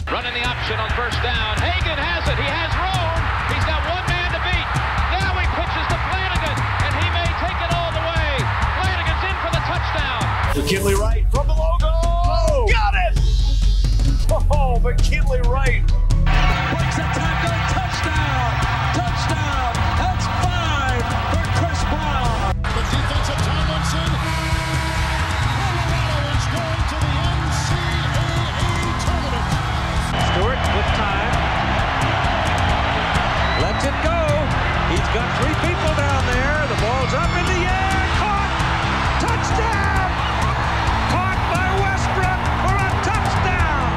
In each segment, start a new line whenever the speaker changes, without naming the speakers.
Running the option on first down. Hagan has it. He has room. He's got one man to beat. Now he pitches to Flanagan, and he may take it all the way. Flanagan's in for the touchdown.
McKinley Wright from the logo. Oh, got it! Oh, McKinley Wright.
Breaks a tackle. Touchdown. Touchdown. That's 5 for Chris Brown.
The defensive Tomlinson. Colorado is going to the NCAA tournament.
Stewart with time. Lets it go. He's got 3 people down there. The ball's up in the air. Caught. Touchdown. Caught by Westbrook for a touchdown.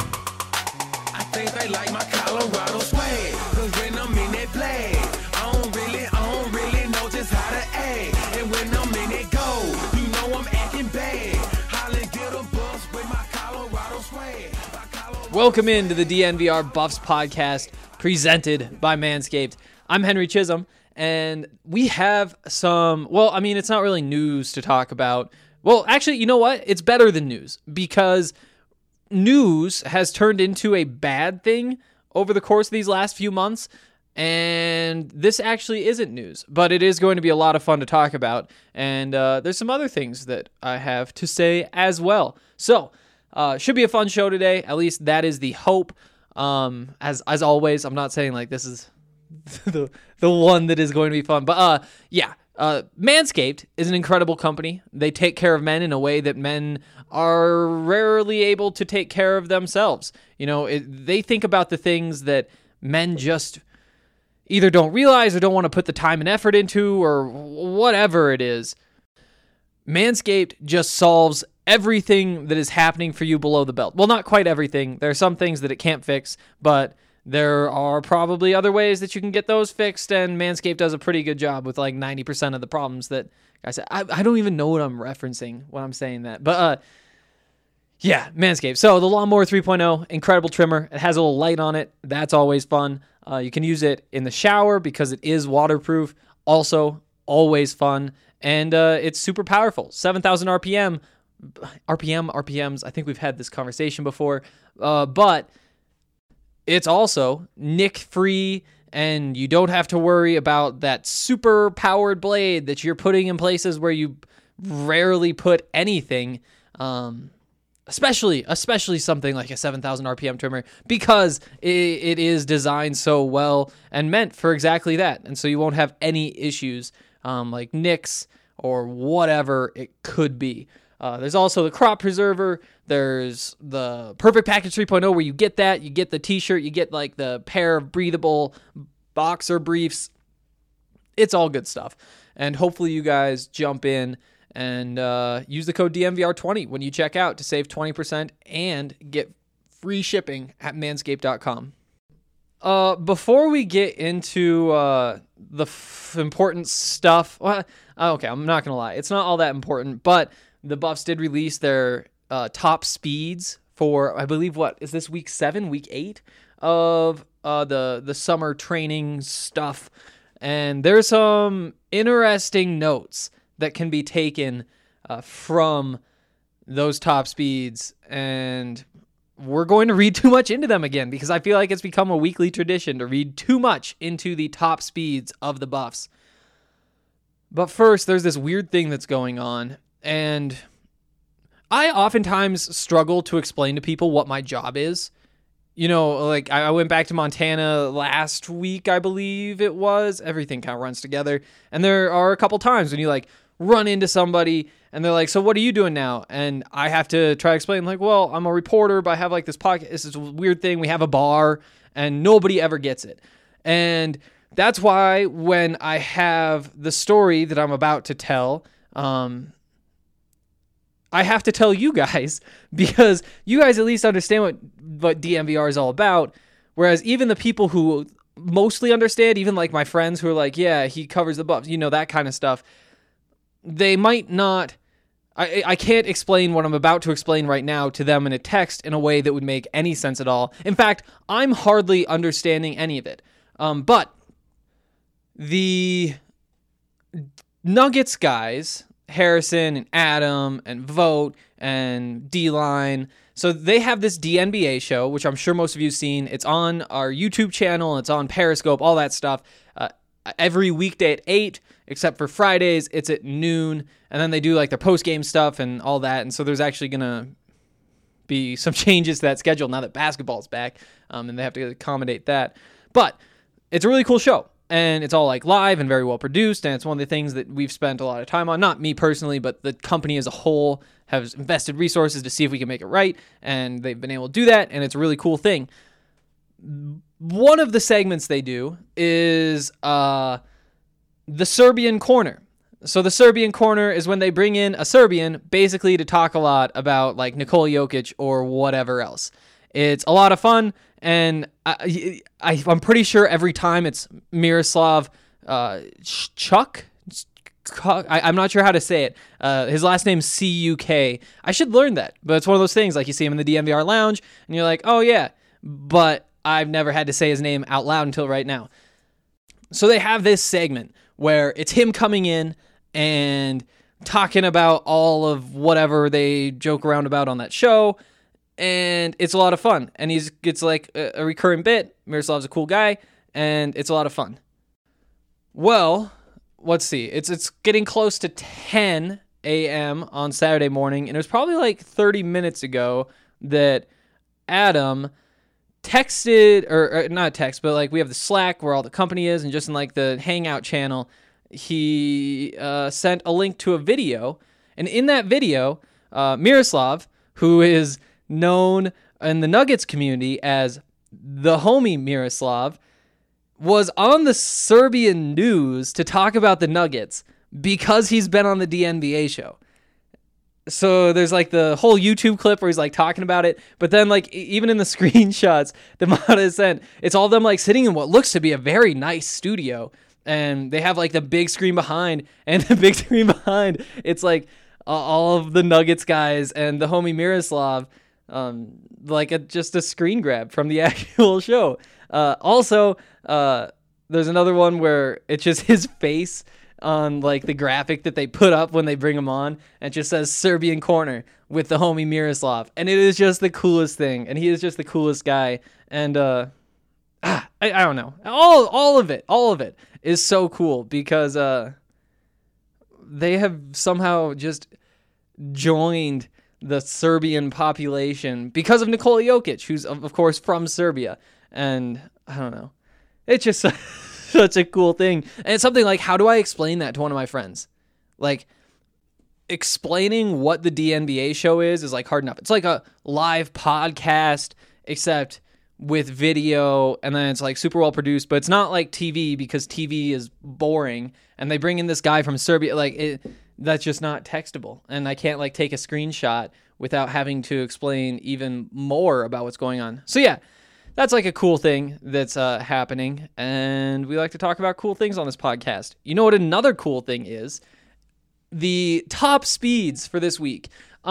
I think they like my Colorado swag. Cause when I'm in that play, I don't really know just how to act. And when I'm in it go, you know I'm acting bad. Holly get a bus with my Colorado swag.
Welcome into the DNVR Buffs podcast presented by Manscaped. I'm Henry Chisholm, and we have some, it's not really news to talk about. Well, actually, you know what? It's better than news, because news has turned into a bad thing over the course of these last few months, and this actually isn't news, but it is going to be a lot of fun to talk about, and there's some other things that I have to say as well. So, should be a fun show today. At least that is the hope. As always, I'm not saying like this is the one that is going to be fun, but Manscaped is an incredible company. They take care of men in a way that men are rarely able to take care of themselves. You know, they think about the things that men just either don't realize or don't want to put the time and effort into, or whatever it is. Manscaped just solves everything that is happening for you below the belt. Well, not quite everything. There are some things that it can't fix, but there are probably other ways that you can get those fixed, and Manscaped does a pretty good job with like 90% of the problems that I said. I don't even know what I'm referencing when I'm saying that, but Manscaped. So the Lawnmower 3.0, incredible trimmer. It has a little light on it. That's always fun. You can use it in the shower because it is waterproof. Also, always fun, and it's super powerful. 7,000 RPMs. I think we've had this conversation before, but it's also nick-free, and you don't have to worry about that super-powered blade that you're putting in places where you rarely put anything, especially something like a 7,000 RPM trimmer, because it is designed so well and meant for exactly that, and so you won't have any issues like nicks or whatever it could be. There's also the crop preserver. There's the Perfect Package 3.0 where you get that. You get the t-shirt. You get like the pair of breathable boxer briefs. It's all good stuff. And hopefully you guys jump in and use the code DNVR20 when you check out to save 20% and get free shipping at manscaped.com. Before we get into the important stuff, okay, I'm not going to lie. It's not all that important, but the Buffs did release their top speeds for, I believe, what is this, week 7, week 8 of the summer training stuff, and there's some interesting notes that can be taken from those top speeds, and we're going to read too much into them again because I feel like it's become a weekly tradition to read too much into the top speeds of the Buffs. But first, there's this weird thing that's going on, and I oftentimes struggle to explain to people what my job is. You know, like I went back to Montana last week, I believe it was. Everything kind of runs together. And there are a couple times when you like run into somebody and they're like, so what are you doing now? And I have to try to explain like, well, I'm a reporter, but I have like this podcast. This is a weird thing. We have a bar and nobody ever gets it. And that's why when I have the story that I'm about to tell, I have to tell you guys because you guys at least understand what DNVR is all about. Whereas even the people who mostly understand, even like my friends who are like, yeah, he covers the Buffs, you know, that kind of stuff, they might not. I can't explain what I'm about to explain right now to them in a text in a way that would make any sense at all. In fact, I'm hardly understanding any of it. But the Nuggets guys, Harrison and Adam and Vogt and D-Line, So they have this DNBA show, which I'm sure most of you have seen. It's on our YouTube channel. It's on Periscope, all that stuff. Every weekday at 8, except for Fridays, it's at noon. And then they do like their post-game stuff and all that. And so there's actually going to be some changes to that schedule now that basketball's back. And they have to accommodate that. But it's a really cool show. And it's all like live and very well produced. And it's one of the things that we've spent a lot of time on. Not me personally, but the company as a whole has invested resources to see if we can make it right. And they've been able to do that. And it's a really cool thing. One of the segments they do is the Serbian Corner. So the Serbian Corner is when they bring in a Serbian basically to talk a lot about like Nikola Jokic or whatever else. It's a lot of fun, and I'm pretty sure every time it's Miroslav Chuck. I'm not sure how to say it. His last name's C-U-K. I should learn that, but it's one of those things like you see him in the DNVR lounge, and you're like, oh yeah, but I've never had to say his name out loud until right now. So they have this segment where it's him coming in and talking about all of whatever they joke around about on that show, and it's a lot of fun. And it's like a recurring bit. Miroslav's a cool guy, and it's a lot of fun. Well, let's see. It's getting close to 10 a.m. on Saturday morning, and it was probably like 30 minutes ago that Adam texted, or not text, but like we have the Slack where all the company is, and just in like the Hangout channel, he sent a link to a video, and in that video, Miroslav, who is known in the Nuggets community as the homie Miroslav, was on the Serbian news to talk about the Nuggets because he's been on the DNBA show. So there's like the whole YouTube clip where he's like talking about it, but then like even in the screenshots that Mata sent, it's all them like sitting in what looks to be a very nice studio, and they have like the big screen behind, and the big screen behind, it's like all of the Nuggets guys and the homie Miroslav, like just a screen grab from the actual show. Also, there's another one where it's just his face on like the graphic that they put up when they bring him on, and it just says Serbian Corner with the homie Miroslav, and it is just the coolest thing, and he is just the coolest guy, and I don't know, all of it is so cool because they have somehow just joined the Serbian population because of Nikola Jokic, who's of course from Serbia, and I don't know, it's just such a cool thing. And it's something like, how do I explain that to one of my friends? Like, explaining what the DNBA show is like hard enough. It's like a live podcast, except with video, and then it's like super well produced, but it's not like TV because TV is boring, and they bring in this guy from Serbia, like that's just not textable, and I can't like take a screenshot without having to explain even more about what's going on. So yeah, that's like a cool thing that's happening, and we like to talk about cool things on this podcast. You know what another cool thing is? The top speeds for this week.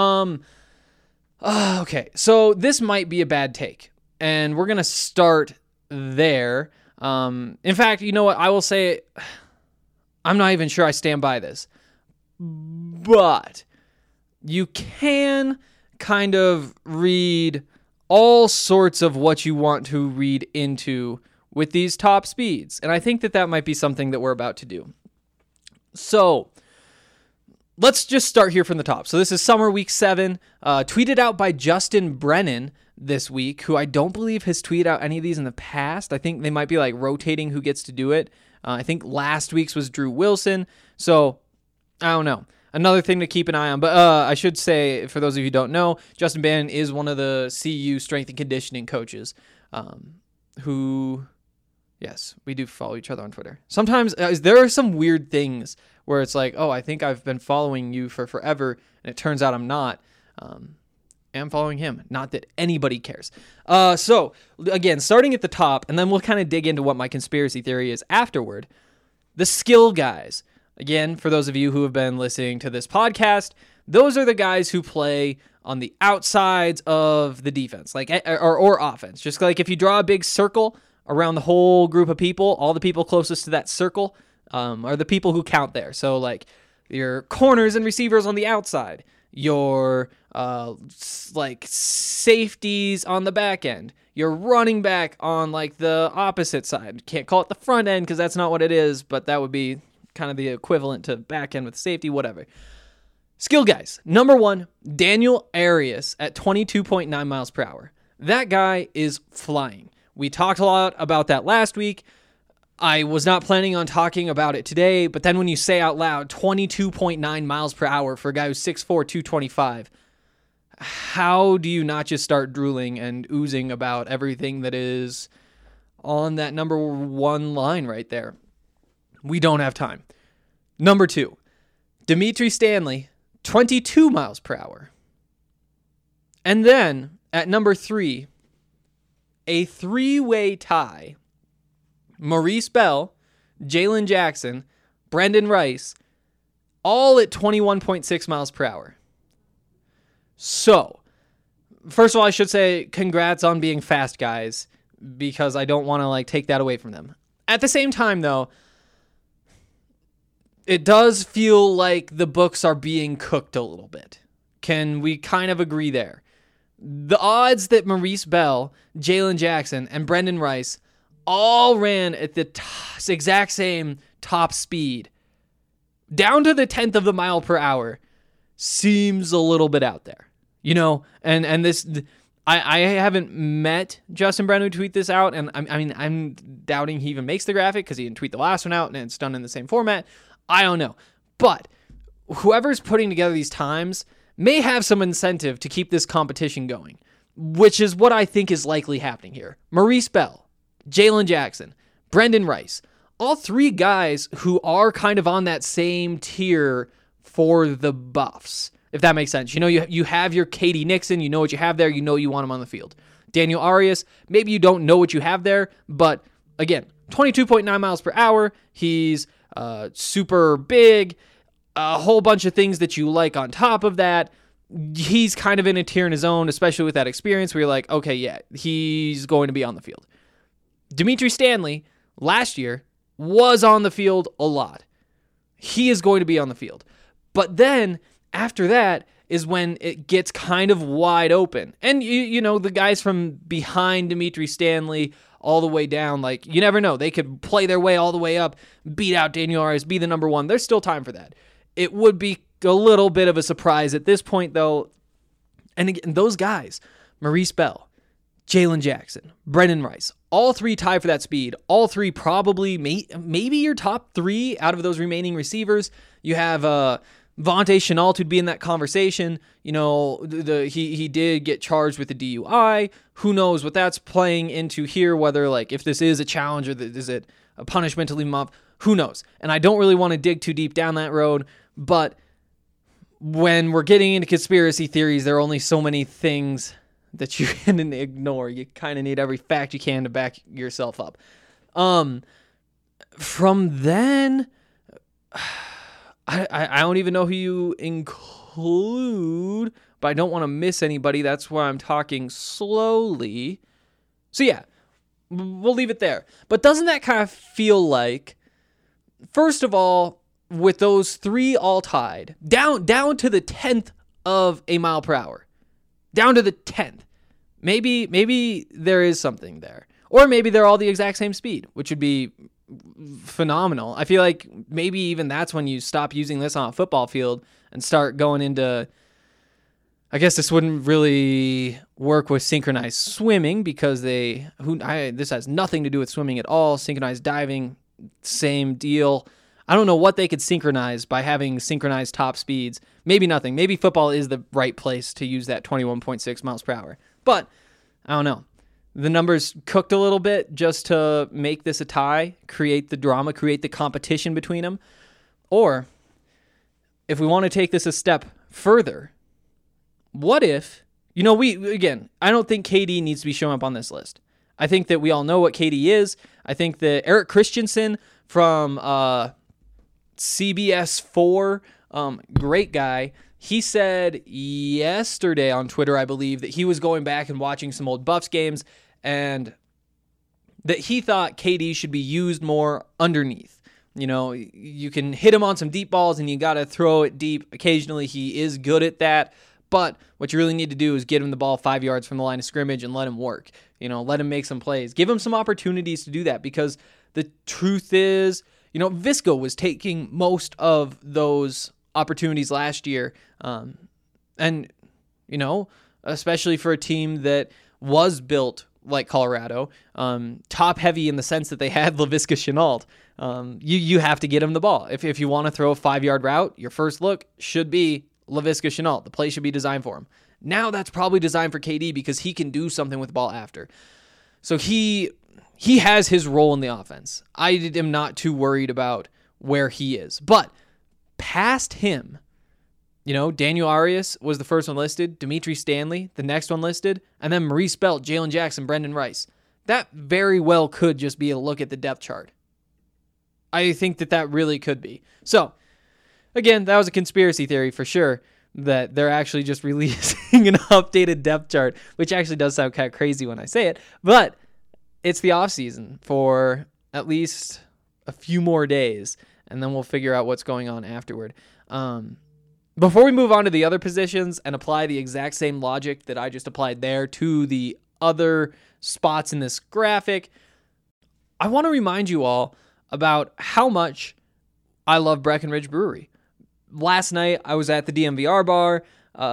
Okay, so this might be a bad take, and we're going to start there. In fact, you know what? I will say, I'm not even sure I stand by this, but you can kind of read all sorts of what you want to read into with these top speeds. And I think that might be something that we're about to do. So let's just start here from the top. So this is Summer Week 7, tweeted out by Justin Brennan this week, who I don't believe has tweeted out any of these in the past. I think they might be like rotating who gets to do it. I think last week's was Drew Wilson. So I don't know. Another thing to keep an eye on. But I should say, for those of you who don't know, Justin Bannon is one of the CU strength and conditioning coaches who, yes, we do follow each other on Twitter. Sometimes there are some weird things where it's like, oh, I think I've been following you for forever, and it turns out I'm not. I'm following him. Not that anybody cares. So, again, starting at the top, and then we'll kind of dig into what my conspiracy theory is afterward. The skill guys. Again, for those of you who have been listening to this podcast, those are the guys who play on the outsides of the defense, like or offense. Just like if you draw a big circle around the whole group of people, all the people closest to that circle are the people who count there. So like your corners and receivers on the outside, your like safeties on the back end, your running back on like the opposite side. Can't call it the front end because that's not what it is, but that would be kind of the equivalent to back end with safety, whatever. Skill guys. Number 1, Daniel Arias at 22.9 miles per hour. That guy is flying. We talked a lot about that last week. I was not planning on talking about it today, but then when you say out loud 22.9 miles per hour for a guy who's 6'4", 225, how do you not just start drooling and oozing about everything that is on that number 1 line right there? We don't have time. Number 2, Dimitri Stanley, 22 miles per hour. And then at number 3, a 3-way tie. Maurice Bell, Jalen Jackson, Brendan Rice, all at 21.6 miles per hour. So, first of all, I should say congrats on being fast, guys, because I don't want to like take that away from them. At the same time, though, it does feel like the books are being cooked a little bit. Can we kind of agree there? The odds that Maurice Bell, Jalen Jackson, and Brendan Rice all ran at the exact same top speed, down to the 10th of the mile per hour, seems a little bit out there. You know, and this, I haven't met Justin Brennan to tweet this out, and I'm doubting he even makes the graphic because he didn't tweet the last one out, and it's done in the same format. I don't know. But whoever's putting together these times may have some incentive to keep this competition going, which is what I think is likely happening here. Maurice Bell, Jalen Jackson, Brendan Rice, all 3 guys who are kind of on that same tier for the buffs, if that makes sense. You know, you have your KD Nixon, you know what you have there, you know you want him on the field. Daniel Arias, maybe you don't know what you have there, but again, 22.9 miles per hour, he's super big, a whole bunch of things that you like on top of that. He's kind of in a tier in his own, especially with that experience where you're like, okay, yeah, he's going to be on the field. Dimitri Stanley, last year, was on the field a lot. He is going to be on the field. But then, after that, is when it gets kind of wide open. And, you know, the guys from behind Dimitri Stanley all the way down, like, you never know. They could play their way all the way up, beat out Daniel Arias, be the number 1. There's still time for that. It would be a little bit of a surprise at this point, though. And again, those guys, Maurice Bell, Jalen Jackson, Brendan Rice, all 3 tie for that speed. All 3 probably, maybe your top 3 out of those remaining receivers. You have Vontae Chenault who'd be in that conversation. You know, he did get charged with a DUI. Who knows what that's playing into here, whether like if this is a challenge or is it a punishment to leave him off? Who knows? And I don't really want to dig too deep down that road, but when we're getting into conspiracy theories, there are only so many things that you can ignore. You kind of need every fact you can to back yourself up. From then, I don't even know who you include, but I don't want to miss anybody. That's why I'm talking slowly. So yeah, we'll leave it there. But doesn't that kind of feel like, first of all, with those 3 all tied, down to the 10th of a mile per hour, down to the 10th, maybe there is something there. Or maybe they're all the exact same speed, which would be phenomenal. I feel like maybe even that's when you stop using this on a football field and start going into, I guess this wouldn't really work with synchronized swimming because this has nothing to do with swimming at all. Synchronized diving, same deal. I don't know what they could synchronize by having synchronized top speeds. Maybe nothing. Maybe football is the right place to use that 21.6 miles per hour. But I don't know. The numbers cooked a little bit just to make this a tie, create the drama, create the competition between them. Or if we want to take this a step further, what if, I don't think KD needs to be showing up on this list. I think that we all know what KD is. I think that Eric Christensen from CBS 4, great guy. He said yesterday on Twitter, I believe, that he was going back and watching some old Buffs games and that he thought KD should be used more underneath. You know, you can hit him on some deep balls and you got to throw it deep. Occasionally he is good at that, but what you really need to do is get him the ball 5 yards from the line of scrimmage and let him work. You know, let him make some plays. Give him some opportunities to do that, because the truth is, you know, Visco was taking most of those opportunities last year. And, you know, especially for a team that was built like Colorado, top heavy in the sense that they had Laviska Shenault. You have to get him the ball. If you want to throw a 5-yard route, your first look should be Laviska Shenault. The play should be designed for him. Now that's probably designed for KD because he can do something with the ball after. So he has his role in the offense. I am not too worried about where he is. But past him, you know, Daniel Arias was the first one listed, Dimitri Stanley, the next one listed, and then Maurice Belt, Jalen Jackson, Brendan Rice. That very well could just be a look at the depth chart. I think that really could be. So, again, that was a conspiracy theory for sure, that they're actually just releasing an updated depth chart, which actually does sound kind of crazy when I say it, but it's the offseason for at least a few more days, and then we'll figure out what's going on afterward. Before we move on to the other positions and apply the exact same logic that I just applied there to the other spots in this graphic, I want to remind you all about how much I love Breckenridge Brewery. Last night, I was at the DMVR bar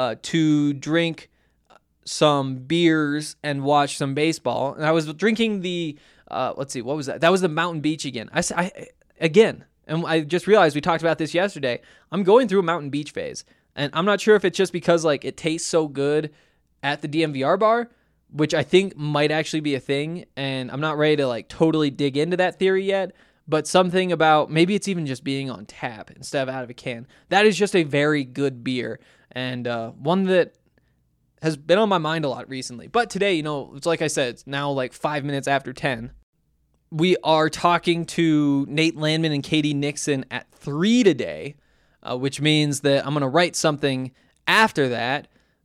to drink some beers and watch some baseball. And I was drinking the, let's see, what was that? That was the Mountain Beach again. Again, and I just realized we talked about this yesterday. I'm going through a Mountain Beach phase. And I'm not sure if it's just because like it tastes so good at the DMVR bar, which I think might actually be a thing. And I'm not ready to like totally dig into that theory yet. But something about, maybe it's even just being on tap instead of out of a can. That is just a very good beer, and one that has been on my mind a lot recently. But today, you know, it's like I said, it's now like 5 minutes after 10. We are talking to Nate Landman and Katie Nixon at 3 today, which means that I'm going to write something after that,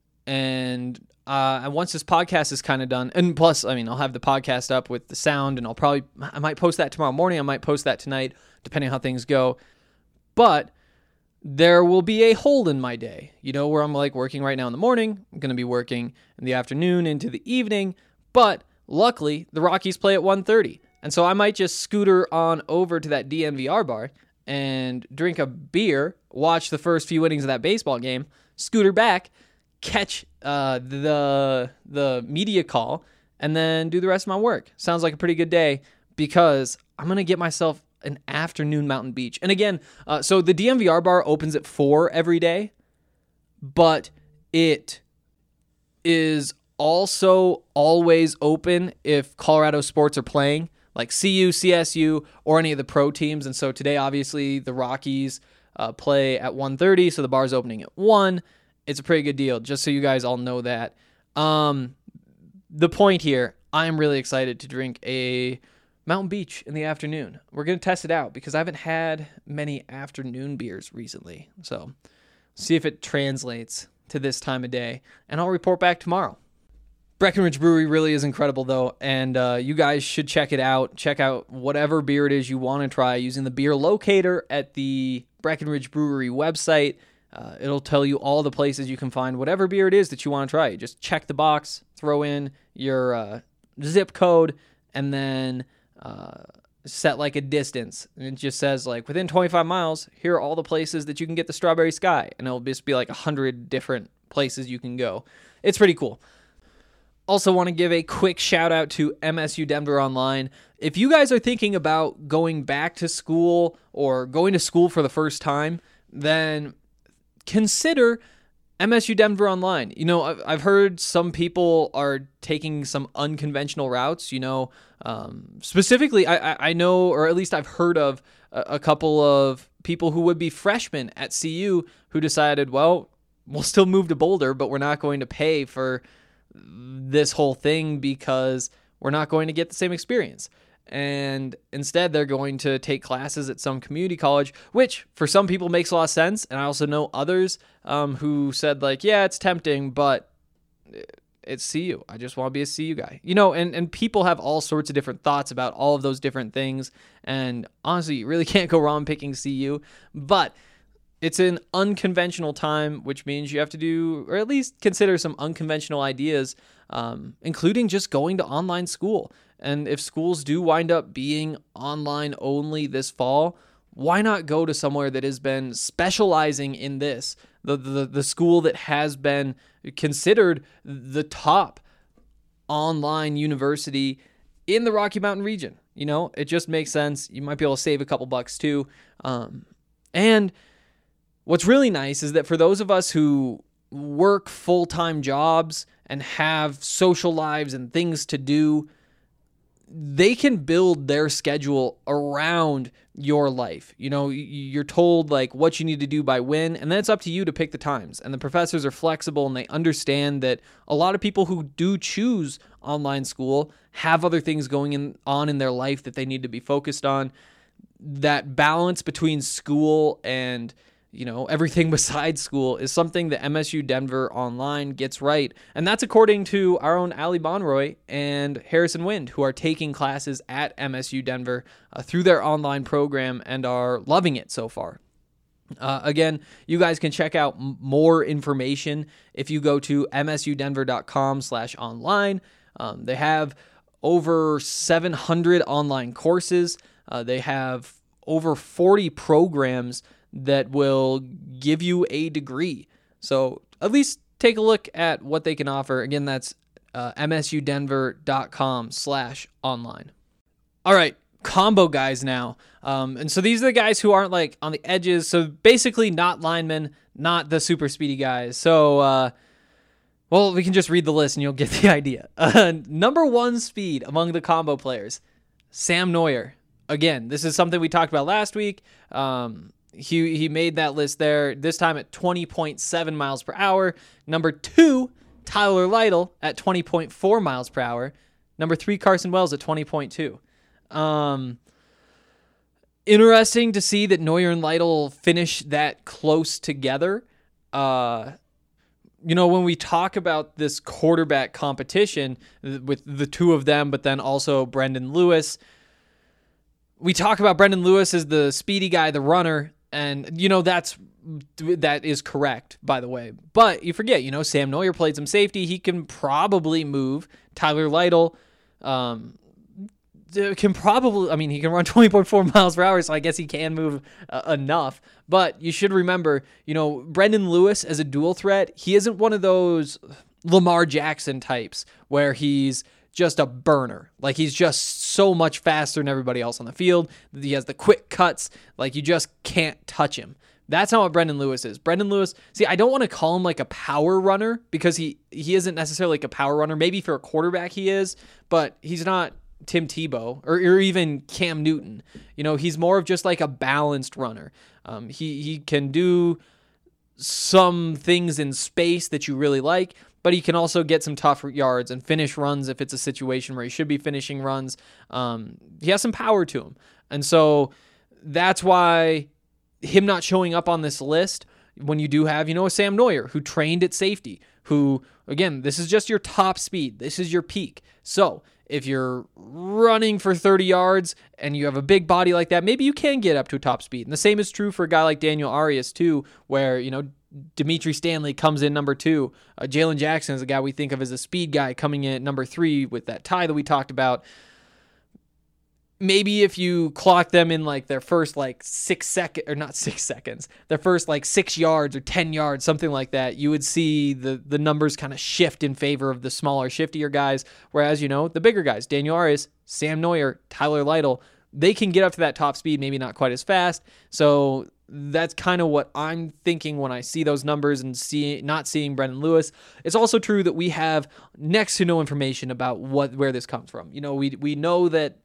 and once this podcast is kind of done, and plus, I mean, I'll have the podcast up with the sound, and I might post that tomorrow morning. I might post that tonight, depending on how things go. But there will be a hole in my day, you know, where I'm like working right now in the morning. I'm going to be working in the afternoon into the evening. But luckily, the Rockies play at 1:30. And so I might just scooter on over to that DNVR bar and drink a beer, watch the first few innings of that baseball game, scooter back, catch the media call, and then do the rest of my work. Sounds like a pretty good day, because I'm going to get myself an afternoon Mountain Beach. And again, so the DMVR bar opens at 4 every day, but it is also always open if Colorado sports are playing, like CU, CSU, or any of the pro teams. And so today, obviously, the Rockies play at 1:30, so the bar's opening at 1. It's a pretty good deal, just so you guys all know that. The point here, I'm really excited to drink a Mountain Beach in the afternoon. We're going to test it out because I haven't had many afternoon beers recently. So see if it translates to this time of day, and I'll report back tomorrow. Breckenridge Brewery really is incredible, though, and you guys should check it out. Check out whatever beer it is you want to try using the beer locator at the Breckenridge Brewery website. It'll tell you all the places you can find whatever beer it is that you want to try. You just check the box, throw in your zip code, and then set like a distance. And it just says like within 25 miles, here are all the places that you can get the Strawberry Sky. And it'll just be like 100 different places you can go. It's pretty cool. Also want to give a quick shout out to MSU Denver Online. If you guys are thinking about going back to school or going to school for the first time, then consider MSU Denver Online. You know, I've heard some people are taking some unconventional routes, you know, specifically I know, or at least I've heard of a couple of people who would be freshmen at CU who decided, well, we'll still move to Boulder, but we're not going to pay for this whole thing because we're not going to get the same experience. And instead, they're going to take classes at some community college, which for some people makes a lot of sense. And I also know others who said, like, yeah, it's tempting, but it's CU. I just want to be a CU guy. You know, and people have all sorts of different thoughts about all of those different things. And honestly, you really can't go wrong picking CU. But it's an unconventional time, which means you have to do, or at least consider some unconventional ideas, including just going to online school. And if schools do wind up being online only this fall, why not go to somewhere that has been specializing in this? The school that has been considered the top online university in the Rocky Mountain region. You know, it just makes sense. You might be able to save a couple bucks too. And what's really nice is that for those of us who work full-time jobs and have social lives and things to do, they can build their schedule around your life. You know, you're told like what you need to do by when, and then it's up to you to pick the times. And the professors are flexible and they understand that a lot of people who do choose online school have other things going on in their life that they need to be focused on. That balance between school and, you know, everything besides school is something that MSU Denver Online gets right. And that's according to our own Ali Bonroy and Harrison Wind, who are taking classes at MSU Denver through their online program and are loving it so far. Again, you guys can check out more information if you go to msudenver.com/online. They have over 700 online courses. They have over 40 programs that will give you a degree. So at least take a look at what they can offer. Again, that's msudenver.com/online. All right, combo guys now. And so these are the guys who aren't like on the edges. So basically not linemen, not the super speedy guys. So, well, we can just read the list and you'll get the idea. Number 1 speed among the combo players, Sam Noyer. Again, this is something we talked about last week. He made that list there, this time at 20.7 miles per hour. Number 2, Tyler Lytle at 20.4 miles per hour. Number 3, Carson Wells at 20.2. Interesting to see that Noyer and Lytle finish that close together. You know, when we talk about this quarterback competition with the two of them, but then also Brendan Lewis, we talk about Brendan Lewis as the speedy guy, the runner, and, you know, that is correct, by the way. But you forget, you know, Sam Noyer played some safety. He can probably move. Tyler Lytle can probably, I mean, he can run 20.4 miles per hour, so I guess he can move enough. But you should remember, you know, Brendan Lewis as a dual threat, he isn't one of those Lamar Jackson types where he's just a burner. Like, he's just so much faster than everybody else on the field. He has the quick cuts. Like, you just can't touch him. That's not what Brendan Lewis is. Brendan Lewis, see, I don't want to call him like a power runner because he isn't necessarily like a power runner. Maybe for a quarterback he is, but he's not Tim Tebow or even Cam Newton. You know, he's more of just like a balanced runner. He can do some things in space that you really like, but he can also get some tough yards and finish runs if it's a situation where he should be finishing runs. He has some power to him. And so that's why him not showing up on this list, when you do have, you know, a Sam Noyer who trained at safety, who, again, this is just your top speed. This is your peak. So if you're running for 30 yards and you have a big body like that, maybe you can get up to a top speed. And the same is true for a guy like Daniel Arias too, where, you know, Dimitri Stanley comes in number 2. Jalen Jackson is a guy we think of as a speed guy coming in at number 3 with that tie that we talked about. Maybe if you clock them in like their first like 6 seconds, or not 6 seconds, their first like 6 yards or 10 yards, something like that, you would see the numbers kind of shift in favor of the smaller, shiftier guys. Whereas, you know, the bigger guys, Daniel Arias, Sam Noyer, Tyler Lytle, they can get up to that top speed, maybe not quite as fast. So that's kind of what I'm thinking when I see those numbers and not seeing Brendan Lewis. It's also true that we have next to no information about where this comes from. You know, we know that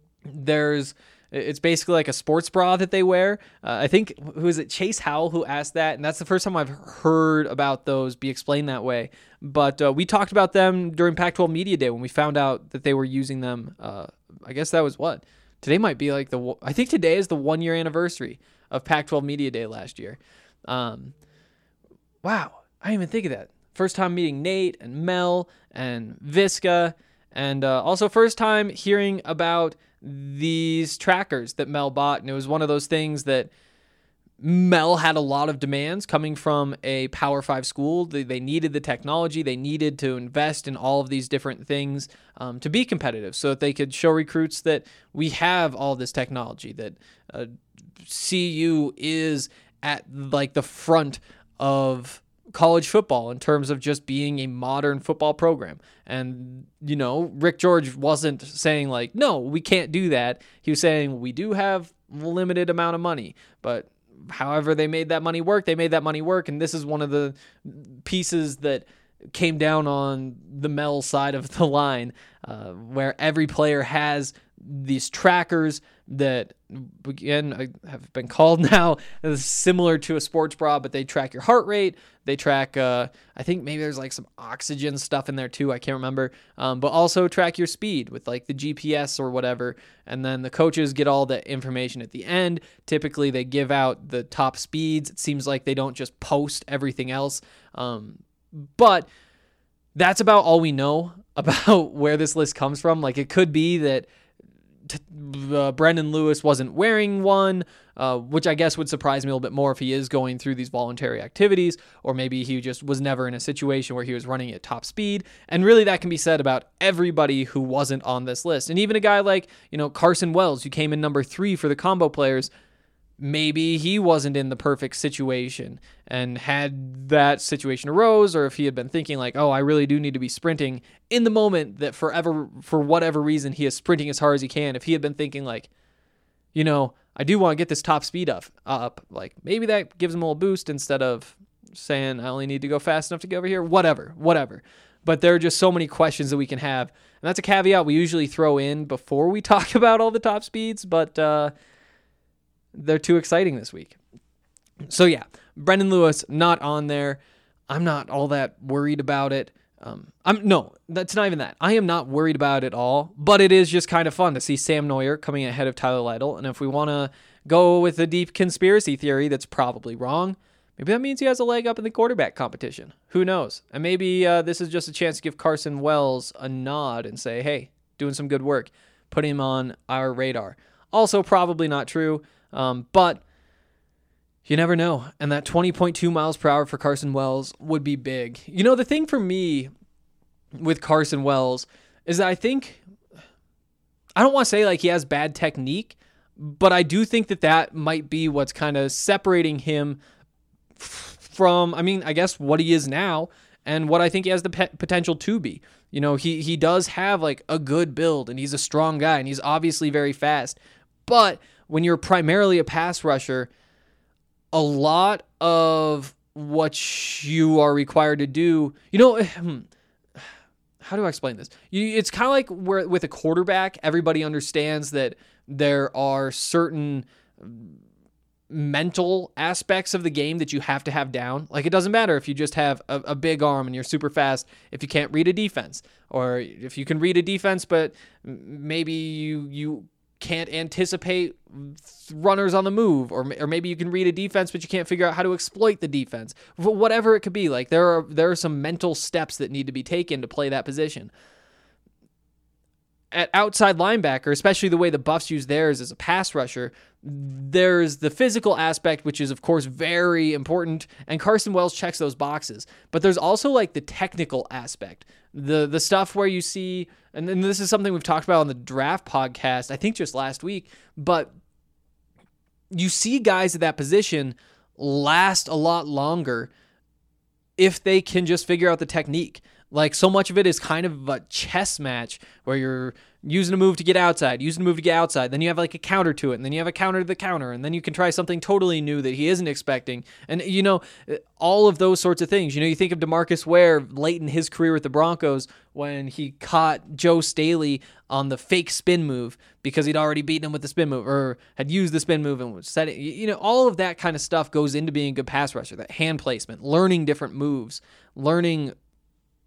it's basically like a sports bra that they wear. I think, who is it, Chase Howell, who asked that, and that's the first time I've heard about those be explained that way. But we talked about them during Pac-12 Media Day when we found out that they were using them. I guess that was what? Today might be like I think today is the 1-year anniversary of Pac-12 Media Day last year. Wow, I didn't even think of that. First time meeting Nate and Mel and Visca, and also first time hearing about these trackers that Mel bought. And it was one of those things that Mel had a lot of demands coming from a Power 5 school. They needed the technology. They needed to invest in all of these different things to be competitive so that they could show recruits that we have all this technology, that CU is at like the front of college football in terms of just being a modern football program. And, you know, Rick George wasn't saying like, no, we can't do that. He was saying we do have a limited amount of money, but however they made that money work, they made that money work. And this is one of the pieces that came down on the Mel side of the line, where every player has these trackers that, again, have been called now similar to a sports bra, but they track your heart rate. They track, I think maybe there's like some oxygen stuff in there too. I can't remember. But also track your speed with like the GPS or whatever. And then the coaches get all the information at the end. Typically they give out the top speeds. It seems like they don't just post everything else. But that's about all we know about where this list comes from. Like, it could be that Brendan Lewis wasn't wearing one, which I guess would surprise me a little bit more if he is going through these voluntary activities, or maybe he just was never in a situation where he was running at top speed. And really that can be said about everybody who wasn't on this list. And even a guy like, you know, Carson Wells, who came in number 3 for the combo players, maybe he wasn't in the perfect situation, and had that situation arose, or if he had been thinking like, oh, I really do need to be sprinting in the moment that for whatever reason, he is sprinting as hard as he can. If he had been thinking like, you know, I do want to get this top speed up, like maybe that gives him a little boost instead of saying I only need to go fast enough to get over here, whatever. But there are just so many questions that we can have. And that's a caveat we usually throw in before we talk about all the top speeds, but, they're too exciting this week. So yeah, Brendan Lewis not on there. I'm not all that worried about it. No, that's not even that. I am not worried about it at all, but it is just kind of fun to see Sam Neuer coming ahead of Tyler Lytle. And if we want to go with a deep conspiracy theory that's probably wrong, maybe that means he has a leg up in the quarterback competition. Who knows? And maybe this is just a chance to give Carson Wells a nod and say, hey, doing some good work. Put him on our radar. Also probably not true. But you never know. And that 20.2 miles per hour for Carson Wells would be big. You know, the thing for me with Carson Wells is that I don't want to say like he has bad technique, but I do think that might be what's kind of separating him from, I guess what he is now and what I think he has the potential to be. You know, he does have like a good build, and he's a strong guy, and he's obviously very fast, but when you're primarily a pass rusher, a lot of what you are required to do, you know, how do I explain this? It's kind of like where with a quarterback, everybody understands that there are certain mental aspects of the game that you have to have down. Like, it doesn't matter if you just have a big arm and you're super fast if you can't read a defense, or if you can read a defense, but maybe you can't anticipate runners on the move, or maybe you can read a defense, but you can't figure out how to exploit the defense. Whatever it could be, like there are some mental steps that need to be taken to play that position. At outside linebacker, especially the way the Buffs use theirs as a pass rusher, there's the physical aspect, which is of course very important, and Carson Wells checks those boxes. But there's also like the technical aspect, the stuff where you see, and then this is something we've talked about on the draft podcast, I think just last week, but you see guys at that position last a lot longer if they can just figure out the technique. Like, so much of it is kind of a chess match where you're using a move to get outside, then you have like a counter to it, and then you have a counter to the counter, and then you can try something totally new that he isn't expecting. And, you know, all of those sorts of things. You know, you think of DeMarcus Ware late in his career with the Broncos when he caught Joe Staley on the fake spin move because he'd already beaten him with the spin move, or had used the spin move and was set it. You know, all of that kind of stuff goes into being a good pass rusher, that hand placement, learning different moves, learning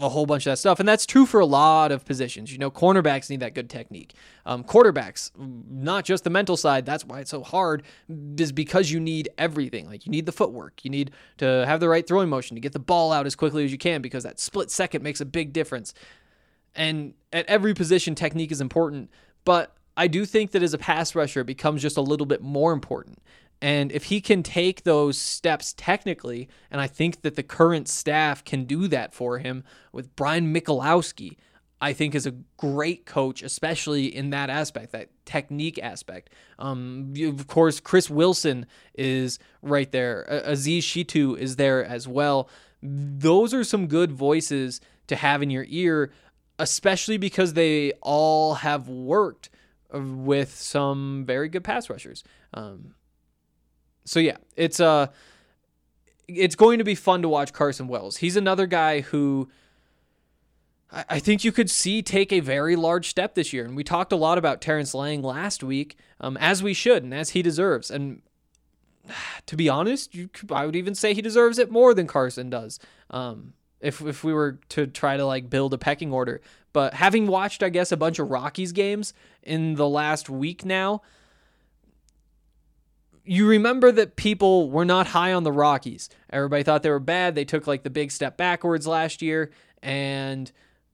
a whole bunch of that stuff. And that's true for a lot of positions. Cornerbacks need that good technique. Quarterbacks, not just the mental side. That's why it's so hard, is because you need everything. Like, you need the footwork. You need to have the right throwing motion to get the ball out as quickly as you can, because that split second makes a big difference. And at every position, technique is important. But I do think that as a pass rusher, it becomes just a little bit more important. And if he can take those steps technically, and I think that the current staff can do that for him with Brian Michalowski, I think is a great coach, especially in that aspect, that technique aspect. Of course, Chris Wilson is right there. Aziz Shitu is there as well. Those are some good voices to have in your ear, especially because they all have worked with some very good pass rushers. So yeah, it's going to be fun to watch Carson Wells. He's another guy who I think you could see take a very large step this year. And we talked a lot about Terrence Lang last week, as we should and as he deserves. And to be honest, I would even say he deserves it more than Carson does. If we were to try to build a pecking order. But having watched, I guess, a bunch of Rockies games in the last week now, you remember that people were not high on the Rockies. Everybody thought they were bad. They took the big step backwards last year, and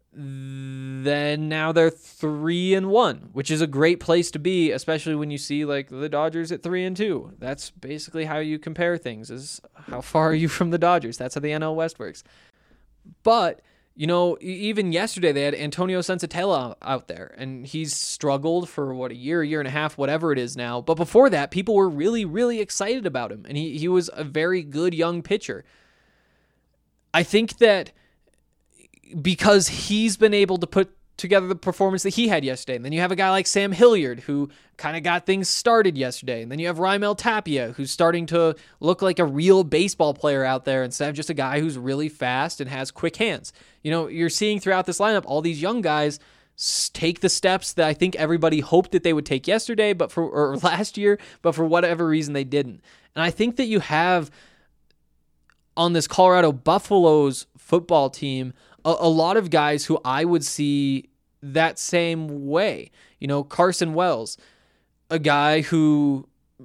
then now they're 3-1, which is a great place to be, especially when you see the Dodgers at 3-2. That's basically how you compare things, is how far are you from the Dodgers. That's how the NL West works. But even yesterday they had Antonio Sensatella out there, and he's struggled for a year and a half, whatever it is now. But before that, people were really, really excited about him, and he was a very good young pitcher. I think that because he's been able to put together the performance that he had yesterday, and then you have a guy like Sam Hilliard, who kind of got things started yesterday, and then you have Raimel Tapia, who's starting to look like a real baseball player out there instead of just a guy who's really fast and has quick hands. You're seeing throughout this lineup all these young guys take the steps that I think everybody hoped that they would take yesterday, or last year, but for whatever reason they didn't. And I think that you have on this Colorado Buffaloes football team a lot of guys who I would see that same way. Carson Wells, a guy who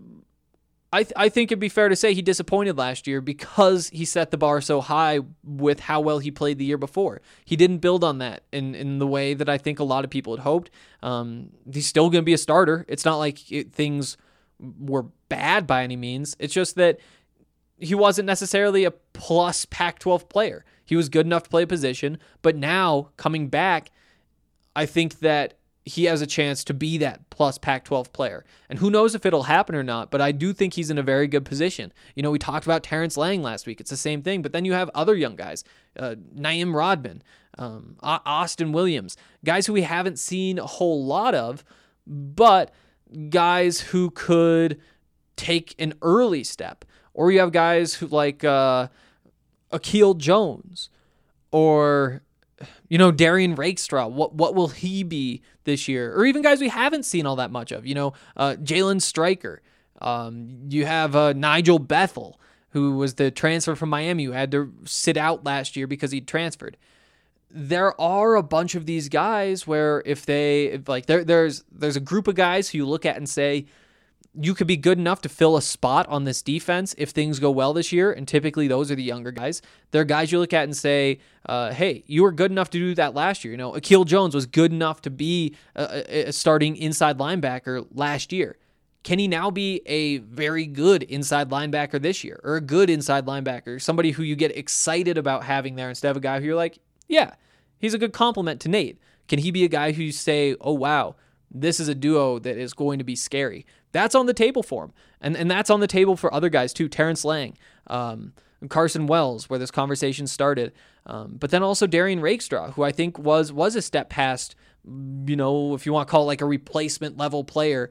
I think it'd be fair to say he disappointed last year because he set the bar so high with how well he played the year before. He didn't build on that in the way that I think a lot of people had hoped. He's still going to be a starter. It's not like things were bad by any means. It's just that he wasn't necessarily a plus Pac-12 player. He was good enough to play a position, but now coming back, I think that he has a chance to be that plus Pac-12 player. And who knows if it'll happen or not, but I do think he's in a very good position. We talked about Terrence Lang last week. It's the same thing, but then you have other young guys, Naeem Rodman, Austin Williams, guys who we haven't seen a whole lot of, but guys who could take an early step. Or you have guys who Akil Jones, or Darian Rakestraw. What will he be this year? Or even guys we haven't seen all that much of. Jalen Stryker. You have Nigel Bethel, who was the transfer from Miami, who had to sit out last year because he transferred. There are a bunch of these guys where there's a group of guys who you look at and say, you could be good enough to fill a spot on this defense if things go well this year, and typically those are the younger guys. There are guys you look at and say, hey, you were good enough to do that last year. Akil Jones was good enough to be a starting inside linebacker last year. Can he now be a very good inside linebacker this year, or a good inside linebacker, somebody who you get excited about having there instead of a guy who you're like, yeah, he's a good complement to Nate? Can he be a guy who you say, oh, wow, this is a duo that is going to be scary? That's on the table for him. And that's on the table for other guys too. Terrence Lang, Carson Wells, where this conversation started. But then also Darian Rakestraw, who I think was a step past, if you want to call it a replacement level player.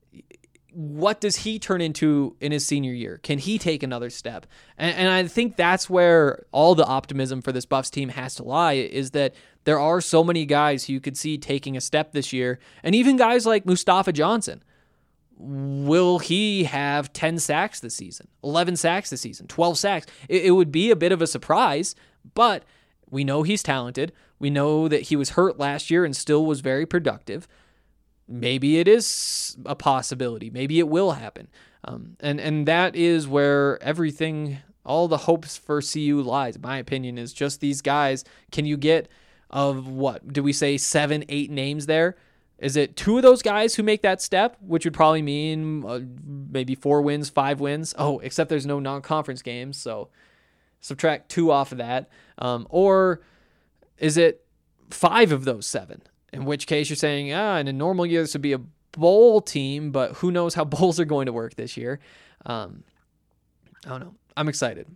What does he turn into in his senior year? Can he take another step? And I think that's where all the optimism for this Buffs team has to lie, is that there are so many guys who you could see taking a step this year. And even guys like Mustafa Johnson. Will he have 10 sacks this season, 11 sacks this season, 12 sacks? It would be a bit of a surprise, but We know he's talented. We know that he was hurt last year and still was very productive. Maybe it is a possibility. Maybe it will happen. And that is where everything, all the hopes for CU lies, in my opinion, is just these guys. Can you get, of what, do we say 7, 8 names there? Is it 2 of those guys who make that step, which would probably mean maybe 4 wins, 5 wins? Oh, except there's no non-conference games, so subtract 2 off of that. Or is it 5 of those 7? In which case you're saying, in a normal year this would be a bowl team, but who knows how bowls are going to work this year. I don't know. I'm excited.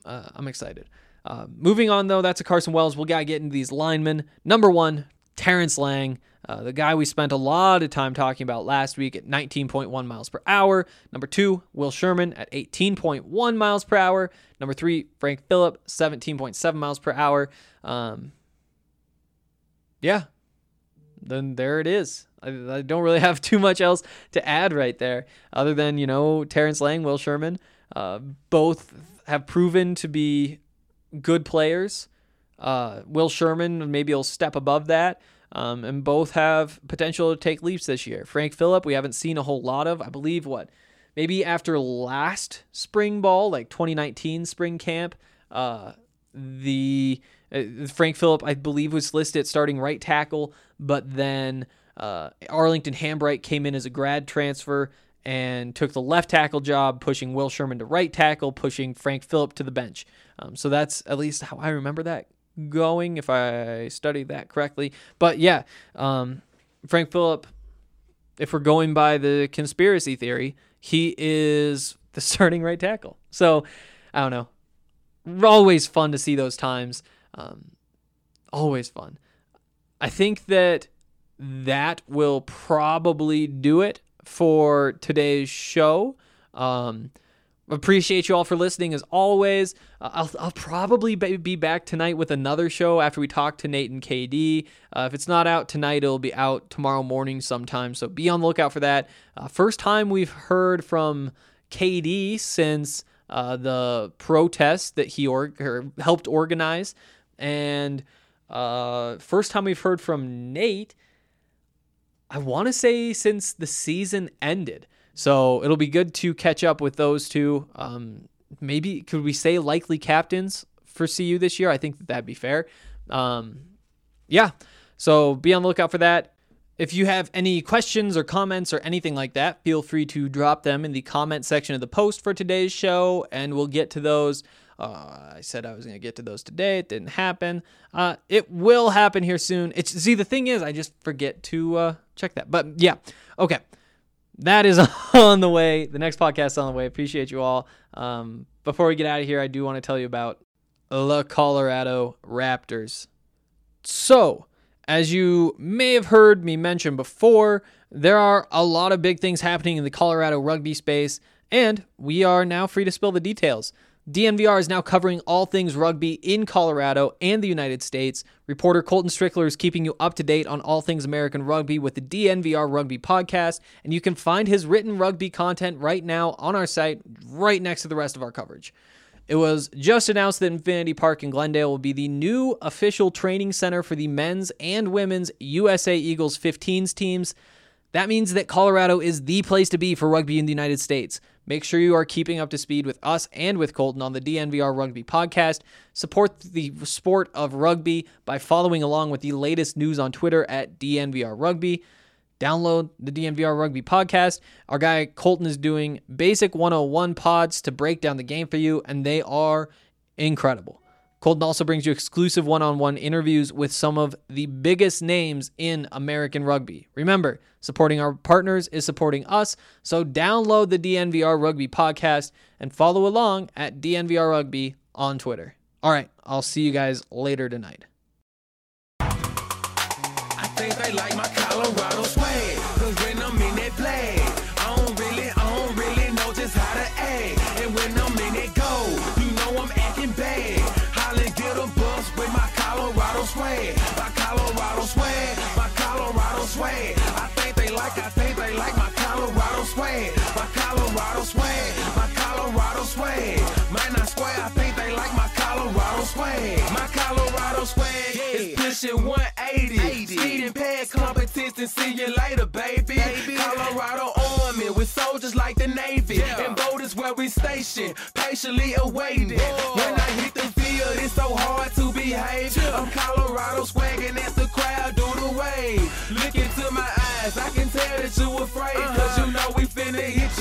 Moving on, though, that's a Carson Wells. We got to get into these linemen. Number 1, Terrence Lang, the guy we spent a lot of time talking about last week at 19.1 miles per hour. Number 2, Will Sherman at 18.1 miles per hour. Number 3, Frank Phillip, 17.7 miles per hour. Then there it is. I don't really have too much else to add right there other than, Terrence Lang, Will Sherman, both have proven to be good players. Will Sherman, maybe he'll step above that, and both have potential to take leaps this year. Frank Phillip, we haven't seen a whole lot of. I believe, maybe after last spring ball, like 2019 spring camp, Frank Phillip, I believe, was listed at starting right tackle, but then Arlington Hambright came in as a grad transfer and took the left tackle job, pushing Will Sherman to right tackle, pushing Frank Phillip to the bench. So that's at least how I remember that going, if I studied that correctly. But yeah, Frank Phillip, if we're going by the conspiracy theory, he is the starting right tackle. So I don't know. Always fun to see those times. Always fun. I think that will probably do it for today's show. Appreciate you all for listening as always. I'll probably be back tonight with another show after we talk to Nate and KD. If it's not out tonight, it'll be out tomorrow morning sometime, so be on the lookout for that. First time we've heard from KD since the protest that he helped organize, and first time we've heard from Nate, I want to say, since the season ended. So it'll be good to catch up with those two. Maybe could we say likely captains for CU this year? I think that'd be fair. Yeah. So be on the lookout for that. If you have any questions or comments or anything like that, feel free to drop them in the comment section of the post for today's show, and we'll get to those. I said I was going to get to those today. It didn't happen. It will happen here soon. The thing is, I just forget to check that. But yeah, okay. That is on the way. The next podcast is on the way. Appreciate you all. Before we get out of here, I do want to tell you about the Colorado Raptors. So, as you may have heard me mention before, there are a lot of big things happening in the Colorado rugby space, and we are now free to spill the details. DNVR is now covering all things rugby in Colorado and the United States. Reporter Colton Strickler is keeping you up to date on all things American rugby with the DNVR Rugby Podcast, and you can find his written rugby content right now on our site, right next to the rest of our coverage. It was just announced that Infinity Park in Glendale will be the new official training center for the men's and women's USA Eagles 15s teams. That means that Colorado is the place to be for rugby in the United States. Make sure you are keeping up to speed with us and with Colton on the DNVR Rugby Podcast. Support the sport of rugby by following along with the latest news on Twitter at DNVR Rugby. Download the DNVR Rugby Podcast. Our guy Colton is doing basic 101 pods to break down the game for you, and they are incredible. Colton also brings you exclusive one-on-one interviews with some of the biggest names in American rugby. Remember, supporting our partners is supporting us, so download the DNVR Rugby Podcast and follow along at DNVR Rugby on Twitter. All right, I'll see you guys later tonight.
I think they like my Colorado swag, 'cause when I'm in that flag, I don't really know just how to act. And when I'm in that goal, you know I'm acting bad. Holly get a bus with my Colorado swag. My Colorado swag, my Colorado swag. I think they like my Colorado swag. My Colorado swag, my Colorado swag. Man, I swear, I think they like my Colorado swag. My Colorado swag. Transmission 180. Speeding past competition, see you later, baby. Colorado Army with soldiers like the Navy. And boat is where we station, patiently awaiting. When I hit the field, it's so hard to behave. I'm Colorado swagging at the crowd, do the wave. Look into my eyes, I can tell that you afraid. Cause you know we finna hit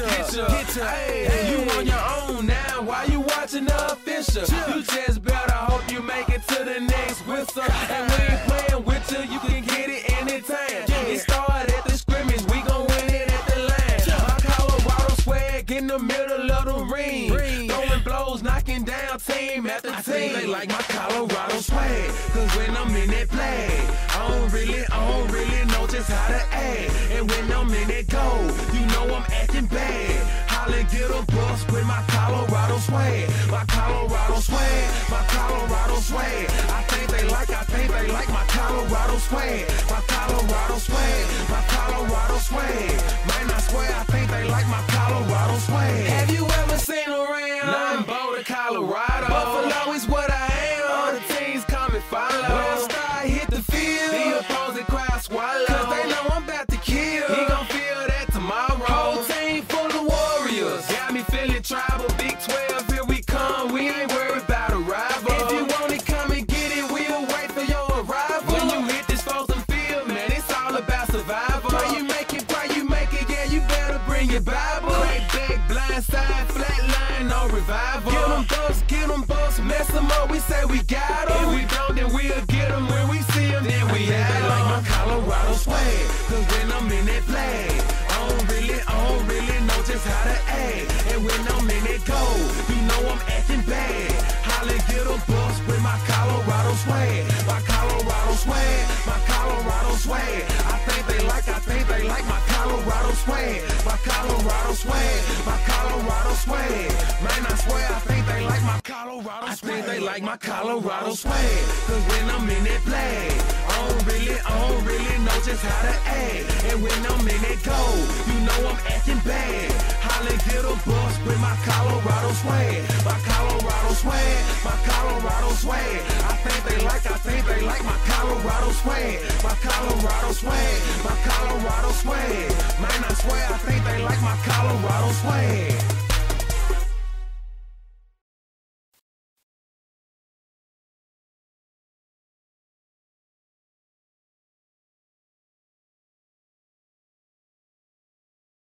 ya. Hey, you on your own now, why you watching the official? You just better hope you make it to the next whistle. And we ain't playing with you, you can get it anytime. It started at the scrimmage, we gon' win it at the line. My Colorado swag in the middle of the ring. Throwing blows, knocking down team after team. I think they like my Colorado swag, cause when I'm in that play, I don't really know just how to act. And when I'm in that goal, you know I'm acting bad. Holla, get a bus with my Colorado swag. My Colorado swag, my Colorado swag. I think they like my Colorado swag. My Colorado swag, my Colorado swag. Man, I swear I think they like my Colorado swag. Have you ever seen around? Nothing Boulder, Colorado. Buffalo is what I am. All the teams come and follow. When I start hit the field, the opposing crowd swallow. Cause they know I'm about to kill. He gon' feel that tomorrow. Whole team full of warriors. Got me feeling tribal. Big 12, here we come. We ain't worried about a rival. If you want it, come and get it. We'll wait for your arrival. When you hit this frozen field, man, it's all about survival. Pray you make it, yeah, you better bring your Bible. Crack back, blind side, flat line, no revival. Get them bucks, mess them up, we say we got them. If we don't, then we'll get them. When we see them, then we have them. Like my Colorado swag, cause when I'm in that flag, I don't really know just how to act. And when I'm in that goal, you know I'm acting bad. Holla, get a bus with my Colorado swag. My Colorado swag, my Colorado swag. I think they like my Colorado swag. My Colorado swag, my Colorado swag. Man, I swear I think they like my Colorado swag. I think they like my Colorado swag. Cause when I'm in that flag, I don't really know just how to act. And when I'm in that goal, you know I'm acting bad. Holla, get a bus with my Colorado swag. My Colorado swag, my Colorado swag. I think they like my Colorado swag. My Colorado swag, my Colorado swag. Man, I swear I think they like my Colorado swag.